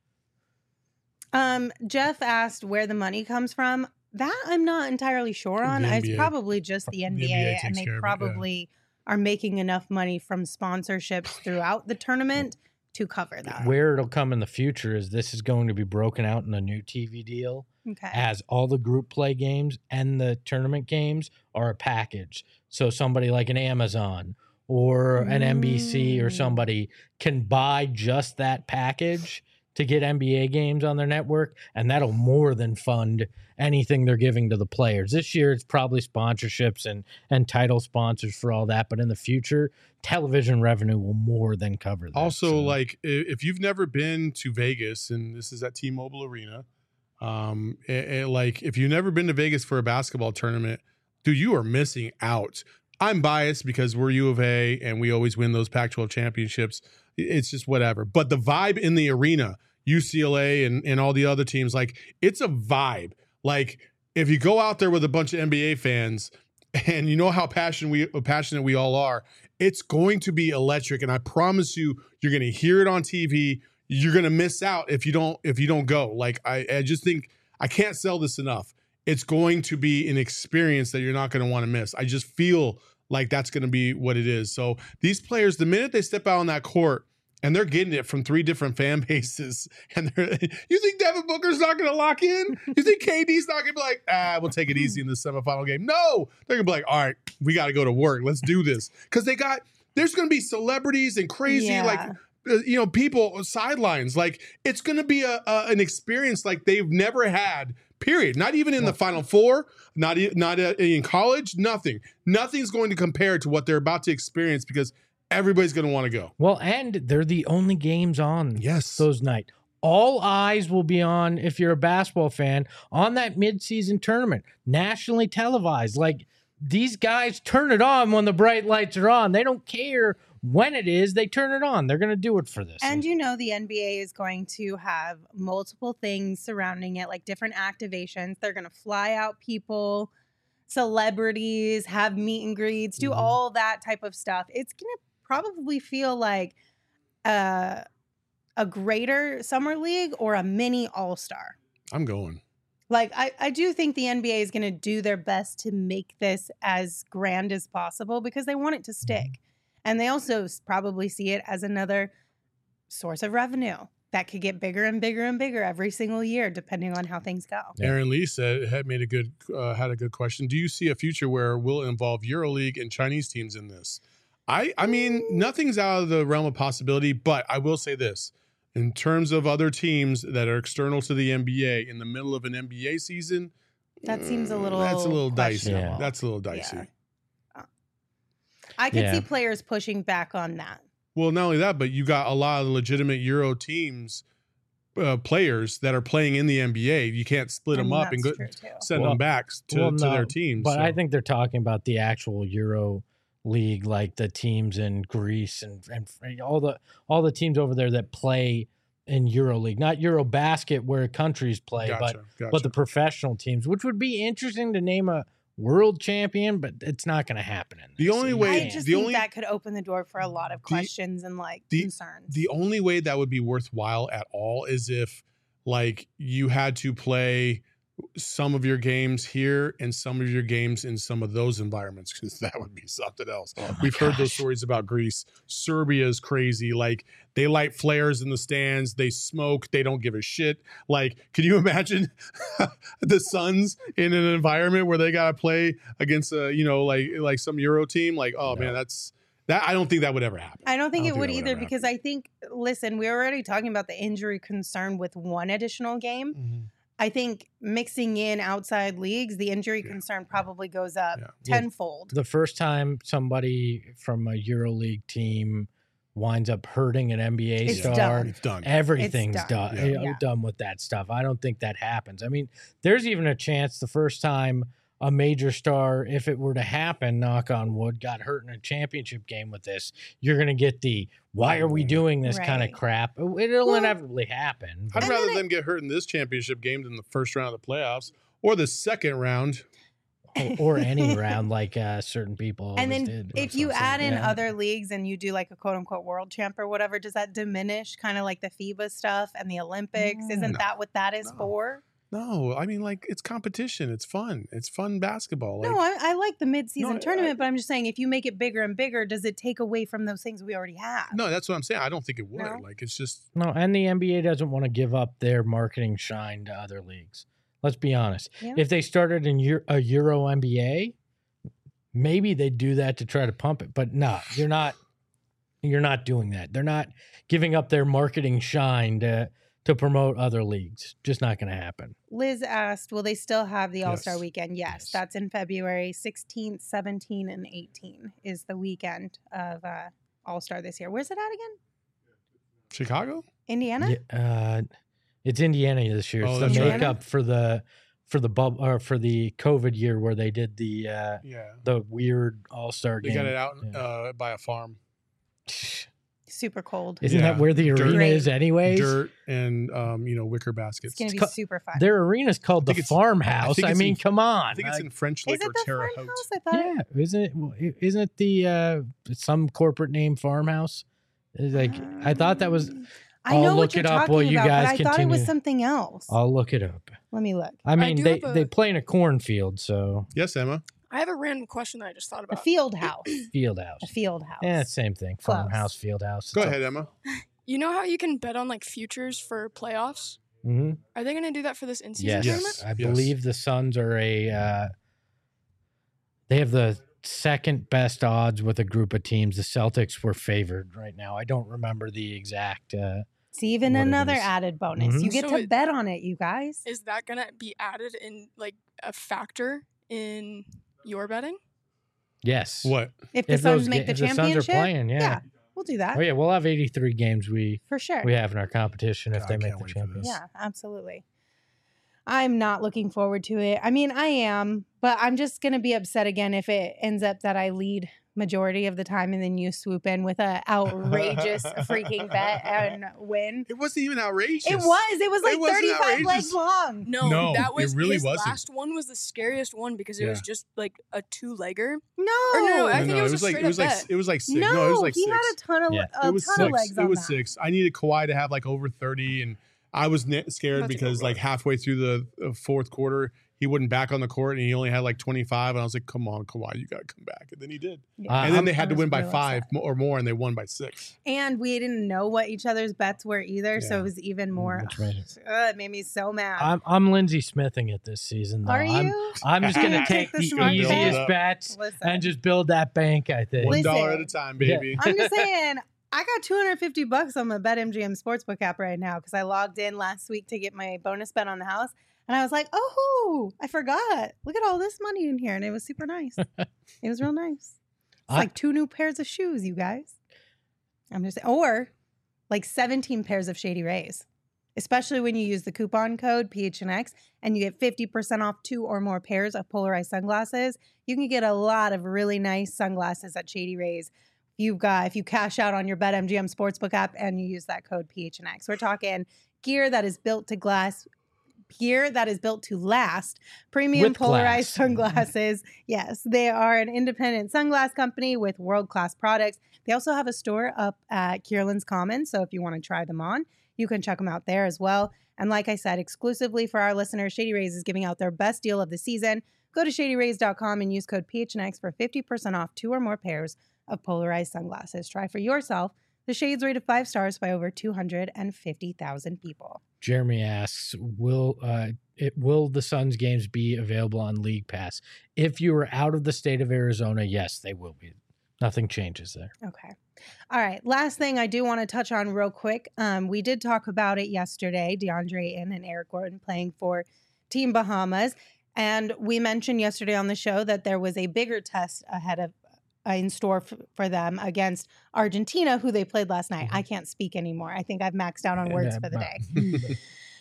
Um, Jeff asked where the money comes from. That I'm not entirely sure on. The N It's B A. probably just the N B A, N B A and takes they care of it, yeah. probably are making enough money from sponsorships throughout the tournament to cover that. Where it'll come in the future is this is going to be broken out in a new T V deal. Okay. As all the group play games and the tournament games are a package. So somebody like an Amazon or an N B C or Mm. somebody can buy just that package to get N B A games on their network, and that'll more than fund anything they're giving to the players. This year, it's probably sponsorships and and title sponsors for all that, but in the future, television revenue will more than cover that. Also, So, like i- if you've never been to Vegas, and this is at T-Mobile Arena, um, it- it- like if you've never been to Vegas for a basketball tournament, dude, you are missing out. I'm biased because we're U of A and we always win those Pac twelve championships. It's just whatever. But the vibe in the arena, U C L A and, and all the other teams, like it's a vibe. Like if you go out there with a bunch of N B A fans and you know how passionate we passionate we all are, it's going to be electric. And I promise you, you're going to hear it on T V. You're going to miss out if you don't if you don't go. Like I, I just think I can't sell this enough. It's going to be an experience that you're not going to want to miss. I just feel like that's going to be what it is. So these players, the minute they step out on that court and they're getting it from three different fan bases, and they're, you think Devin Booker's not going to lock in? You think K D's not going to be like, ah, we'll take it easy in the semifinal game? No, they're going to be like, all right, we got to go to work. Let's do this. Because they got, there's going to be celebrities and crazy, Yeah. like, uh, you know, people sidelines. Like, it's going to be a, a an experience like they've never had Period. Not even in the Final Four, not e- not uh, in college, nothing. Nothing's going to compare to what they're about to experience because everybody's going to want to go. Well, and they're the only games on Yes. those nights. All eyes will be on, if you're a basketball fan, on that midseason tournament, nationally televised. Like, these guys turn it on when the bright lights are on. They don't care when it is. They turn it on. They're going to do it for this. And you know the N B A is going to have multiple things surrounding it, like different activations. They're going to fly out people, celebrities, have meet and greets, do Mhm. all that type of stuff. It's going to probably feel like uh, a greater summer league or a mini all-star. I'm going. Like, I, I do think the N B A is going to do their best to make this as grand as possible because they want it to stick. And they also s- probably see it as another source of revenue that could get bigger and bigger and bigger every single year, depending on how things go. Yeah. Aaron Lee said had made a good uh, had a good question. Do you see a future where we'll involve EuroLeague and Chinese teams in this? I I mean, nothing's out of the realm of possibility, but I will say this. In terms of other teams that are external to the N B A in the middle of an N B A season, That seems a mm, little that's a little dicey. questionable. That's a little dicey. Yeah. I could Yeah. see players pushing back on that. Well, not only that, but you got a lot of legitimate Euro teams, uh, players that are playing in the N B A. You can't split I them mean, up and go, that's true, too. send Well- them back to, well, to no, their teams. But so. I think they're talking about the actual Euro League, like the teams in Greece and, and all the all the teams over there that play in Euro League, not Euro Basket where countries play, gotcha, but gotcha. but the professional teams, which would be interesting to name a world champion, but it's not going to happen. In The this. only You way- I can't. just the think only- that could open the door for a lot of questions and like the- concerns. The only way that would be worthwhile at all is if, like, you had to play some of your games here and some of your games in some of those environments, because that would be something else. Oh my We've heard those gosh. stories about Greece. Serbia is crazy. Like, they light flares in the stands, they smoke, they don't give a shit. Like, can you imagine the Suns in an environment where they gotta play against a, you know, like like some Euro team? Like, oh No. man, that's that. I don't think that would ever happen. I don't think I it don't would think that either would because I think, listen, we're already talking about the injury concern with one additional game. Mhm. I think mixing in outside leagues, the injury Yeah. concern probably goes up Yeah. Yeah. tenfold. The first time somebody from a Euro League team winds up hurting an N B A It's star, done. It's done. everything's It's done, done. you know, Yeah. done with that stuff. I don't think that happens. I mean, there's even a chance the first time a major star, if it were to happen, knock on wood, got hurt in a championship game with this, you're going to get the why are we doing this kind of Right. crap? It'll Well- inevitably happen. I'd And rather then them get hurt in this championship game than the first round of the playoffs or the second round. or, or any round like uh, certain people And always then did. if That's you what I'm add saying. in Yeah. other leagues and you do like a quote unquote world champ or whatever, does that diminish kind of like the FIBA stuff and the Olympics? Isn't No. that what that is No. for? No, I mean, like, it's competition. It's fun. It's fun basketball. Like, no, I, I like the mid-season No, I- tournament, but I'm just saying if you make it bigger and bigger, does it take away from those things we already have? no, that's what I'm saying. I don't think it would. No? Like, it's just No, and the N B A doesn't want to give up their marketing shine to other leagues. Let's be honest. Yeah. If they started in Euro, a Euro N B A, maybe they'd do that to try to pump it. But no, you're not. You're not doing that. They're not giving up their marketing shine to to promote other leagues. Just not going to happen. Liz asked, will they still have the All-Star Yes. weekend? Yes, Yes. that's in February sixteenth, seventeenth, and eighteenth is the weekend of uh, All-Star this year. Where's it at again? Chicago. Indiana? Yeah, uh, it's Indiana this year. Oh, It's that's the right. makeup for the for the bub or for the COVID year where they did the uh, Yeah. the weird All Star They game. got it out Yeah. uh, by a farm. Super cold. Isn't Yeah. that where the Dirt. arena Great. is anyways? Dirt and, um, you know, wicker It's baskets. going to be co- super fun. Their arena's called the think it's- I Farmhouse. think I, it's mean, in- come on. I think it's Uh, in French is Lick it or the Terre farmhouse? Haute. I thought. yeah, isn't it? well, i- Isn't it the uh, some corporate name Farmhouse? It's like I thought that was. Um, I I'll know look what you're it up talking while you about, guys but I thought it continue. was something else. I'll look it up. Let me look. I mean, do they have they a- play in a cornfield, so Yes, Emma. I have a random question that I just thought A about. field house. field house. A field house. Yeah, same thing. Close. Farmhouse, field house. Go ahead, Emma. You know how you can bet on like futures for playoffs? hmm Are they going to do that for this in-season Yes, tournament? Yes. I believe the Suns are a. Uh, they have the second best odds with a group of teams. The Celtics were favored right now. I don't remember the exact uh, It's even what it another is. added bonus. Mhm. You get So to it- bet on it, you guys. Is that gonna be added in like a factor in your betting? Yes. What? If the If Suns those make ga- the if the Suns are championship, playing, yeah. yeah, we'll do that Oh yeah, we'll have eighty-three games we for sure. we have in our competition if God, they I make can't the wait for champions. this. Yeah, absolutely. I'm not looking forward to it. I mean, I am, but I'm just going to be upset again if it ends up that I lead majority of the time and then you swoop in with a outrageous freaking bet and win. It wasn't even outrageous. It was. It was like It wasn't thirty-five legs outrageous. long. No, No, that it was really his wasn't. last one was the scariest one because it was Yeah. just like a two-legger. No. Or no, I No, think no, it was a like it straight was up like bet. it was like six. No, No, it was like he six. had a ton of Yeah. a it was ton six. of legs it on was that. six. I needed Kawhi to have like over thirty, and I was ne- scared About to go because like run. halfway through the uh, fourth quarter, he wasn't back on the court, and he only had like twenty-five. And I was like, "Come on, Kawhi, you got to come back." And then he did. Yeah. Uh, and then I'm- they I had to was win by real five upset. mo- or more, and they won by six. And we didn't know what each other's bets were either, so Yeah. it was even more. Which made it- Ugh, it made me so mad. I'm I'm Lindsey Smithing it this season though. Are I'm, you? I'm just gonna Take take the the smart bet. easiest Build it up. bets Listen. and just build that bank, I think. One Listen. dollar at a time, Yeah. baby. I'm just saying, I got two hundred fifty bucks on my BetMGM Sportsbook app right now because I logged in last week to get my bonus bet on the house. And I was like, oh, I forgot. Look at all this money in here. And it was super nice. It was real nice. It's I- like two new pairs of shoes, you guys. I'm just or like seventeen pairs of Shady Rays, especially when you use the coupon code P H N X and you get fifty percent off two or more pairs of polarized sunglasses. You can get a lot of really nice sunglasses at Shady Rays. You've got, if you cash out on your BetMGM Sportsbook app and you use that code P H N X. We're talking gear that is built to glass, gear that is built to last, premium With polarized glass. sunglasses. Yes, they are an independent sunglass company with world-class products. They also have a store up at Kierland's Commons, so if you want to try them on, you can check them out there as well. And like I said, exclusively for our listeners, Shady Rays is giving out their best deal of the season. Go to shady rays dot com and use code P H N X for fifty percent off two or more pairs of polarized sunglasses. Try for yourself. The Shades rated five stars by over two hundred fifty thousand people. Jeremy asks, "Will uh, it will the Suns games be available on League Pass? If you are out of the state of Arizona, yes, they will be. Nothing changes there." Okay. All right. Last thing I do want to touch on real quick. Um, we did talk about it yesterday, DeAndre Ayton and Eric Gordon playing for Team Bahamas. And we mentioned yesterday on the show that there was a bigger test ahead of uh, in store f- for them against Argentina, who they played last night. I can't speak anymore. I think I've maxed out on words for the day.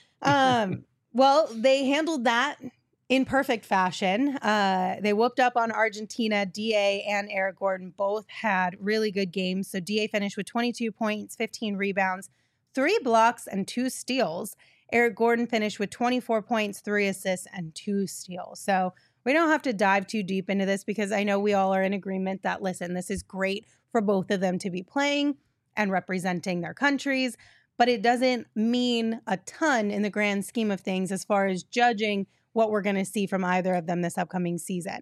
Um, well, they handled that in perfect fashion. Uh, they whooped up on Argentina. D A and Eric Gordon both had really good games. So D A finished with twenty-two points, fifteen rebounds, three blocks, and two steals. Eric Gordon finished with twenty-four points, three assists, and two steals. So we don't have to dive too deep into this because I know we all are in agreement that, listen, this is great for both of them to be playing and representing their countries, but it doesn't mean a ton in the grand scheme of things as far as judging what we're going to see from either of them this upcoming season.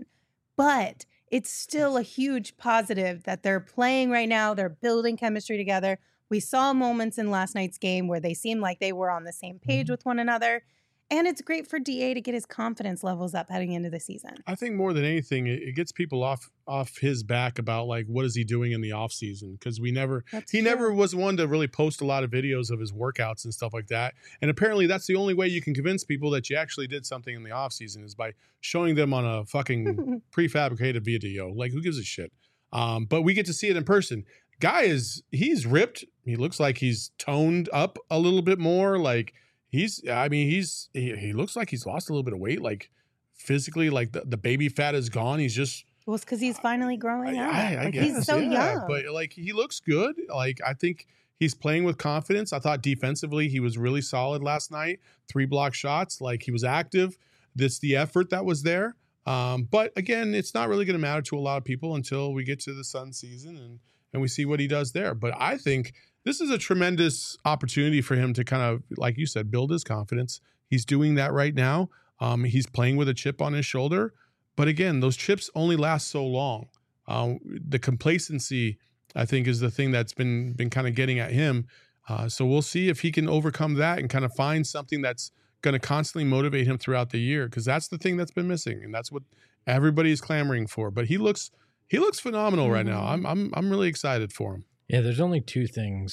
But it's still a huge positive that they're playing right now. They're building chemistry together. We saw moments in last night's game where they seemed like they were on the same page with one another. And it's great for D A to get his confidence levels up heading into the season. I think more than anything, it, it gets people off off his back about like what is he doing in the off season, because we never That's he true. never was one to really post a lot of videos of his workouts and stuff like that. And apparently that's the only way you can convince people that you actually did something in the off season is by showing them on a fucking prefabricated video. Like, who gives a shit? Um, but we get to see it in person. Guy is he's ripped. He looks like he's toned up a little bit more. Like he's I mean he's he, he looks like he's lost a little bit of weight. Like physically, like the, the baby fat is gone. He's just Well, it's because he's finally growing up. I, I like, guess, he's so yeah, young. but like he looks good. Like I think he's playing with confidence. I thought defensively he was really solid last night. Three block shots. Like he was active. That's the effort that was there. Um, but again, it's not really going to matter to a lot of people until we get to the Sun season and and we see what he does there. But I think this is a tremendous opportunity for him to kind of, like you said, build his confidence. He's doing that right now. Um, he's playing with a chip on his shoulder. But again, those chips only last so long. Um, the complacency, I think, is the thing that's been been kind of getting at him. Uh, so we'll see if he can overcome that and kind of find something that's going to constantly motivate him throughout the year, because that's the thing that's been missing, and that's what everybody's clamoring for. But he looks he looks phenomenal right now. I'm I'm I'm really excited for him. Yeah, there's only two things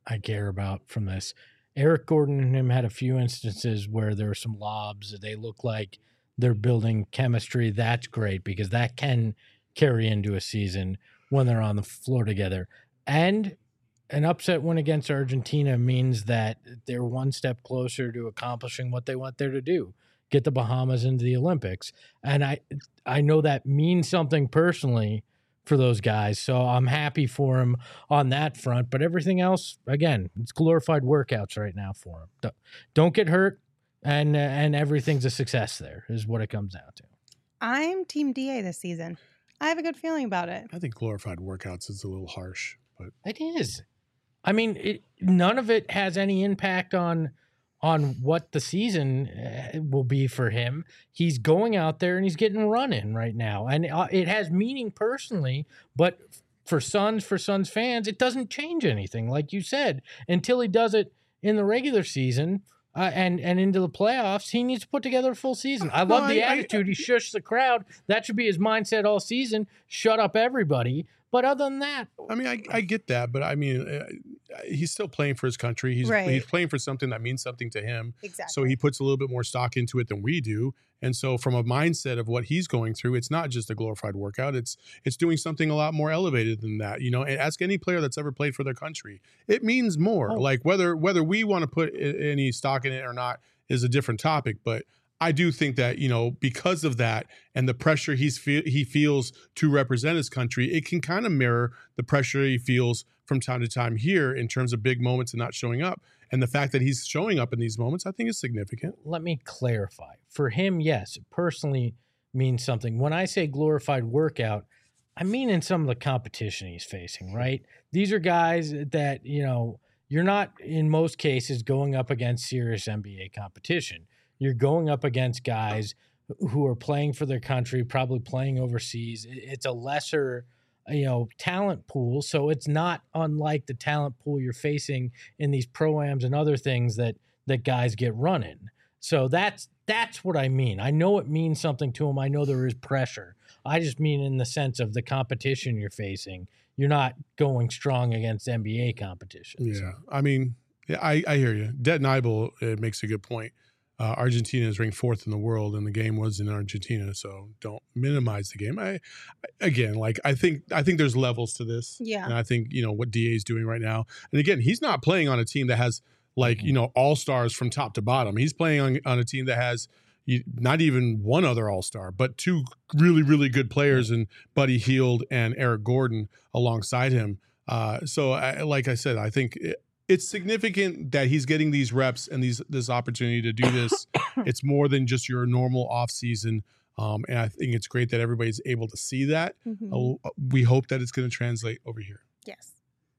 I care about from this. Eric Gordon and him had a few instances where there were some lobs. They look like they're building chemistry. That's great because that can carry into a season when they're on the floor together. And an upset win against Argentina means that they're one step closer to accomplishing what they want there to do, get the Bahamas into the Olympics. And I I know that means something personally for those guys, so I'm happy for him on that front. But everything else, again, it's glorified workouts right now for him. Don't, don't get hurt, and uh, and everything's a success there, is what it comes down to. I'm Team D A this season. I have a good feeling about it. I think glorified workouts is a little harsh, but It is. I mean, it, none of it has any impact on on what the season uh, will be for him. He's going out there and he's getting run in right now, and uh, it has meaning personally. But for Suns, for Suns fans, it doesn't change anything, like you said, until he does it in the regular season. Uh, and and into the playoffs, he needs to put together a full season. I love No, the I- I- attitude. He shushed the crowd. That should be his mindset all season. Shut up, everybody. But other than that, I mean, I, I get that, but I mean, uh, he's still playing for his country. He's Right. he's playing for something that means something to him. Exactly. So he puts a little bit more stock into it than we do. And so from a mindset of what he's going through, it's not just a glorified workout. It's it's doing something a lot more elevated than that. You know, and ask any player that's ever played for their country. It means more. Oh. Like whether whether we want to put i- any stock in it or not is a different topic. But I do think that, you know, because of that and the pressure he's fe- he feels to represent his country, it can kind of mirror the pressure he feels from time to time here in terms of big moments and not showing up. And the fact that he's showing up in these moments, I think is significant. let me clarify. For him, yes, it personally means something. When I say glorified workout, I mean in some of the competition he's facing, right? These are guys that, you know, you're not in most cases going up against serious N B A competition. You're going up against guys who are playing for their country, probably playing overseas. It- It's a lesser, you know, talent pool. So it's not unlike the talent pool you're facing in these pro-ams and other things that that guys get running. So that's that's what I mean. I know it means something to him. I know there is pressure. I just mean in the sense of the competition you're facing. You're not going strong against N B A competition. Yeah. I mean, yeah, I, I hear you. Det Nibel uh, makes a good point. Uh, Argentina is ranked fourth in the world, and the game was in Argentina. So don't minimize the game. I, again, like I think, I think there's levels to this. Yeah. And I think you know what D A is doing right now. And again, he's not playing on a team that has like you know all stars from top to bottom. He's playing on on a team that has you, not even one other all star, but two really really good players, and Buddy Hield and Eric Gordon alongside him. Uh, so, I, like I said, I think. It, It's significant that he's getting these reps and these this opportunity to do this. It's more than just your normal off season, um, and I think it's great that everybody's able to see that. Mhm. Uh, we hope that it's going to translate over here. Yes.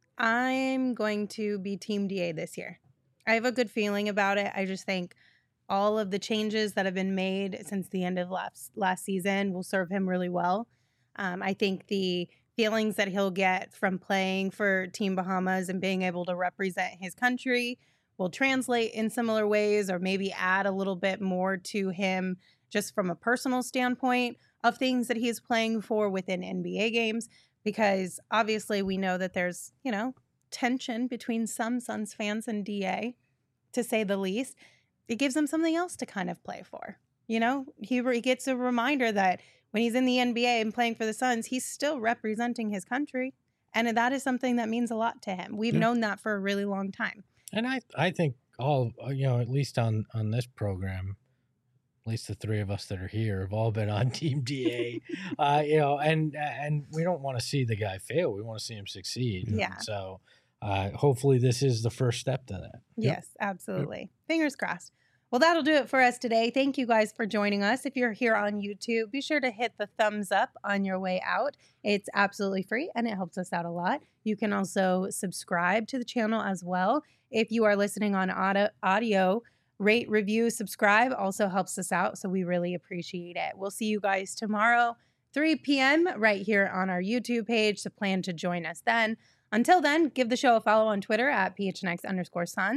I'm going to be Team D A this year. I have a good feeling about it. I just think all of the changes that have been made since the end of last last season will serve him really well. Um, I think the feelings that he'll get from playing for Team Bahamas and being able to represent his country will translate in similar ways, or maybe add a little bit more to him just from a personal standpoint of things that he's playing for within N B A games. Because obviously we know that there's, you know, tension between some Suns fans and D A, to say the least. It gives him something else to kind of play for. You know, he, he gets a reminder that when he's in the N B A and playing for the Suns, he's still representing his country. And that is something that means a lot to him. We've Yeah. known that for a really long time. And I, I think all, you know, at least on, on this program, at least the three of us that are here have all been on Team D A, uh, you know, and, and we don't want to see the guy fail. We want to see him succeed. Yeah. So uh, hopefully this is the first step to that. Yep. Yes, absolutely. Fingers crossed. Well, that'll do it for us today. Thank you guys for joining us. If you're here on YouTube, be sure to hit the thumbs up on your way out. It's absolutely free and it helps us out a lot. You can also subscribe to the channel as well. If you are listening on audio, audio rate, review, subscribe also helps us out. So we really appreciate it. We'll see you guys tomorrow, three p.m. right here on our YouTube page. So plan to join us then. Until then, give the show a follow on Twitter at P H N X underscore Suns.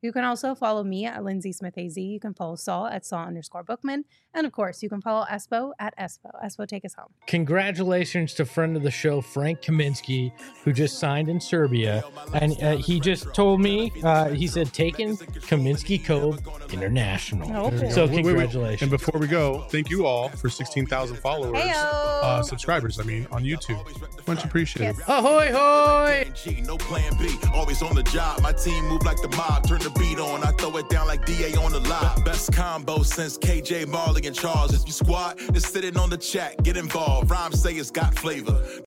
You can also follow me at Lindsay Smith A Z. You can follow Saul at Saul underscore Bookman. And of course, you can follow Espo at Espo. Espo, take us home. Congratulations to friend of the show, Frank Kaminsky, who just signed in Serbia. And uh, he just told me, uh, he said, taking Kaminsky Cove International. Oh, cool. So Wait, wait, wait. congratulations. And before we go, thank you all for sixteen thousand followers, Heyo. uh, subscribers, I mean, on YouTube. Much appreciated. Yes. Ahoy, hoy! No plan B, always on the job. My team move like the mob. Turn the beat on, I throw it down like D A on the live. Best combo since K J Marley and Charles. If you squad, just sitting on the chat, get involved. Rhymes say it's got flavor.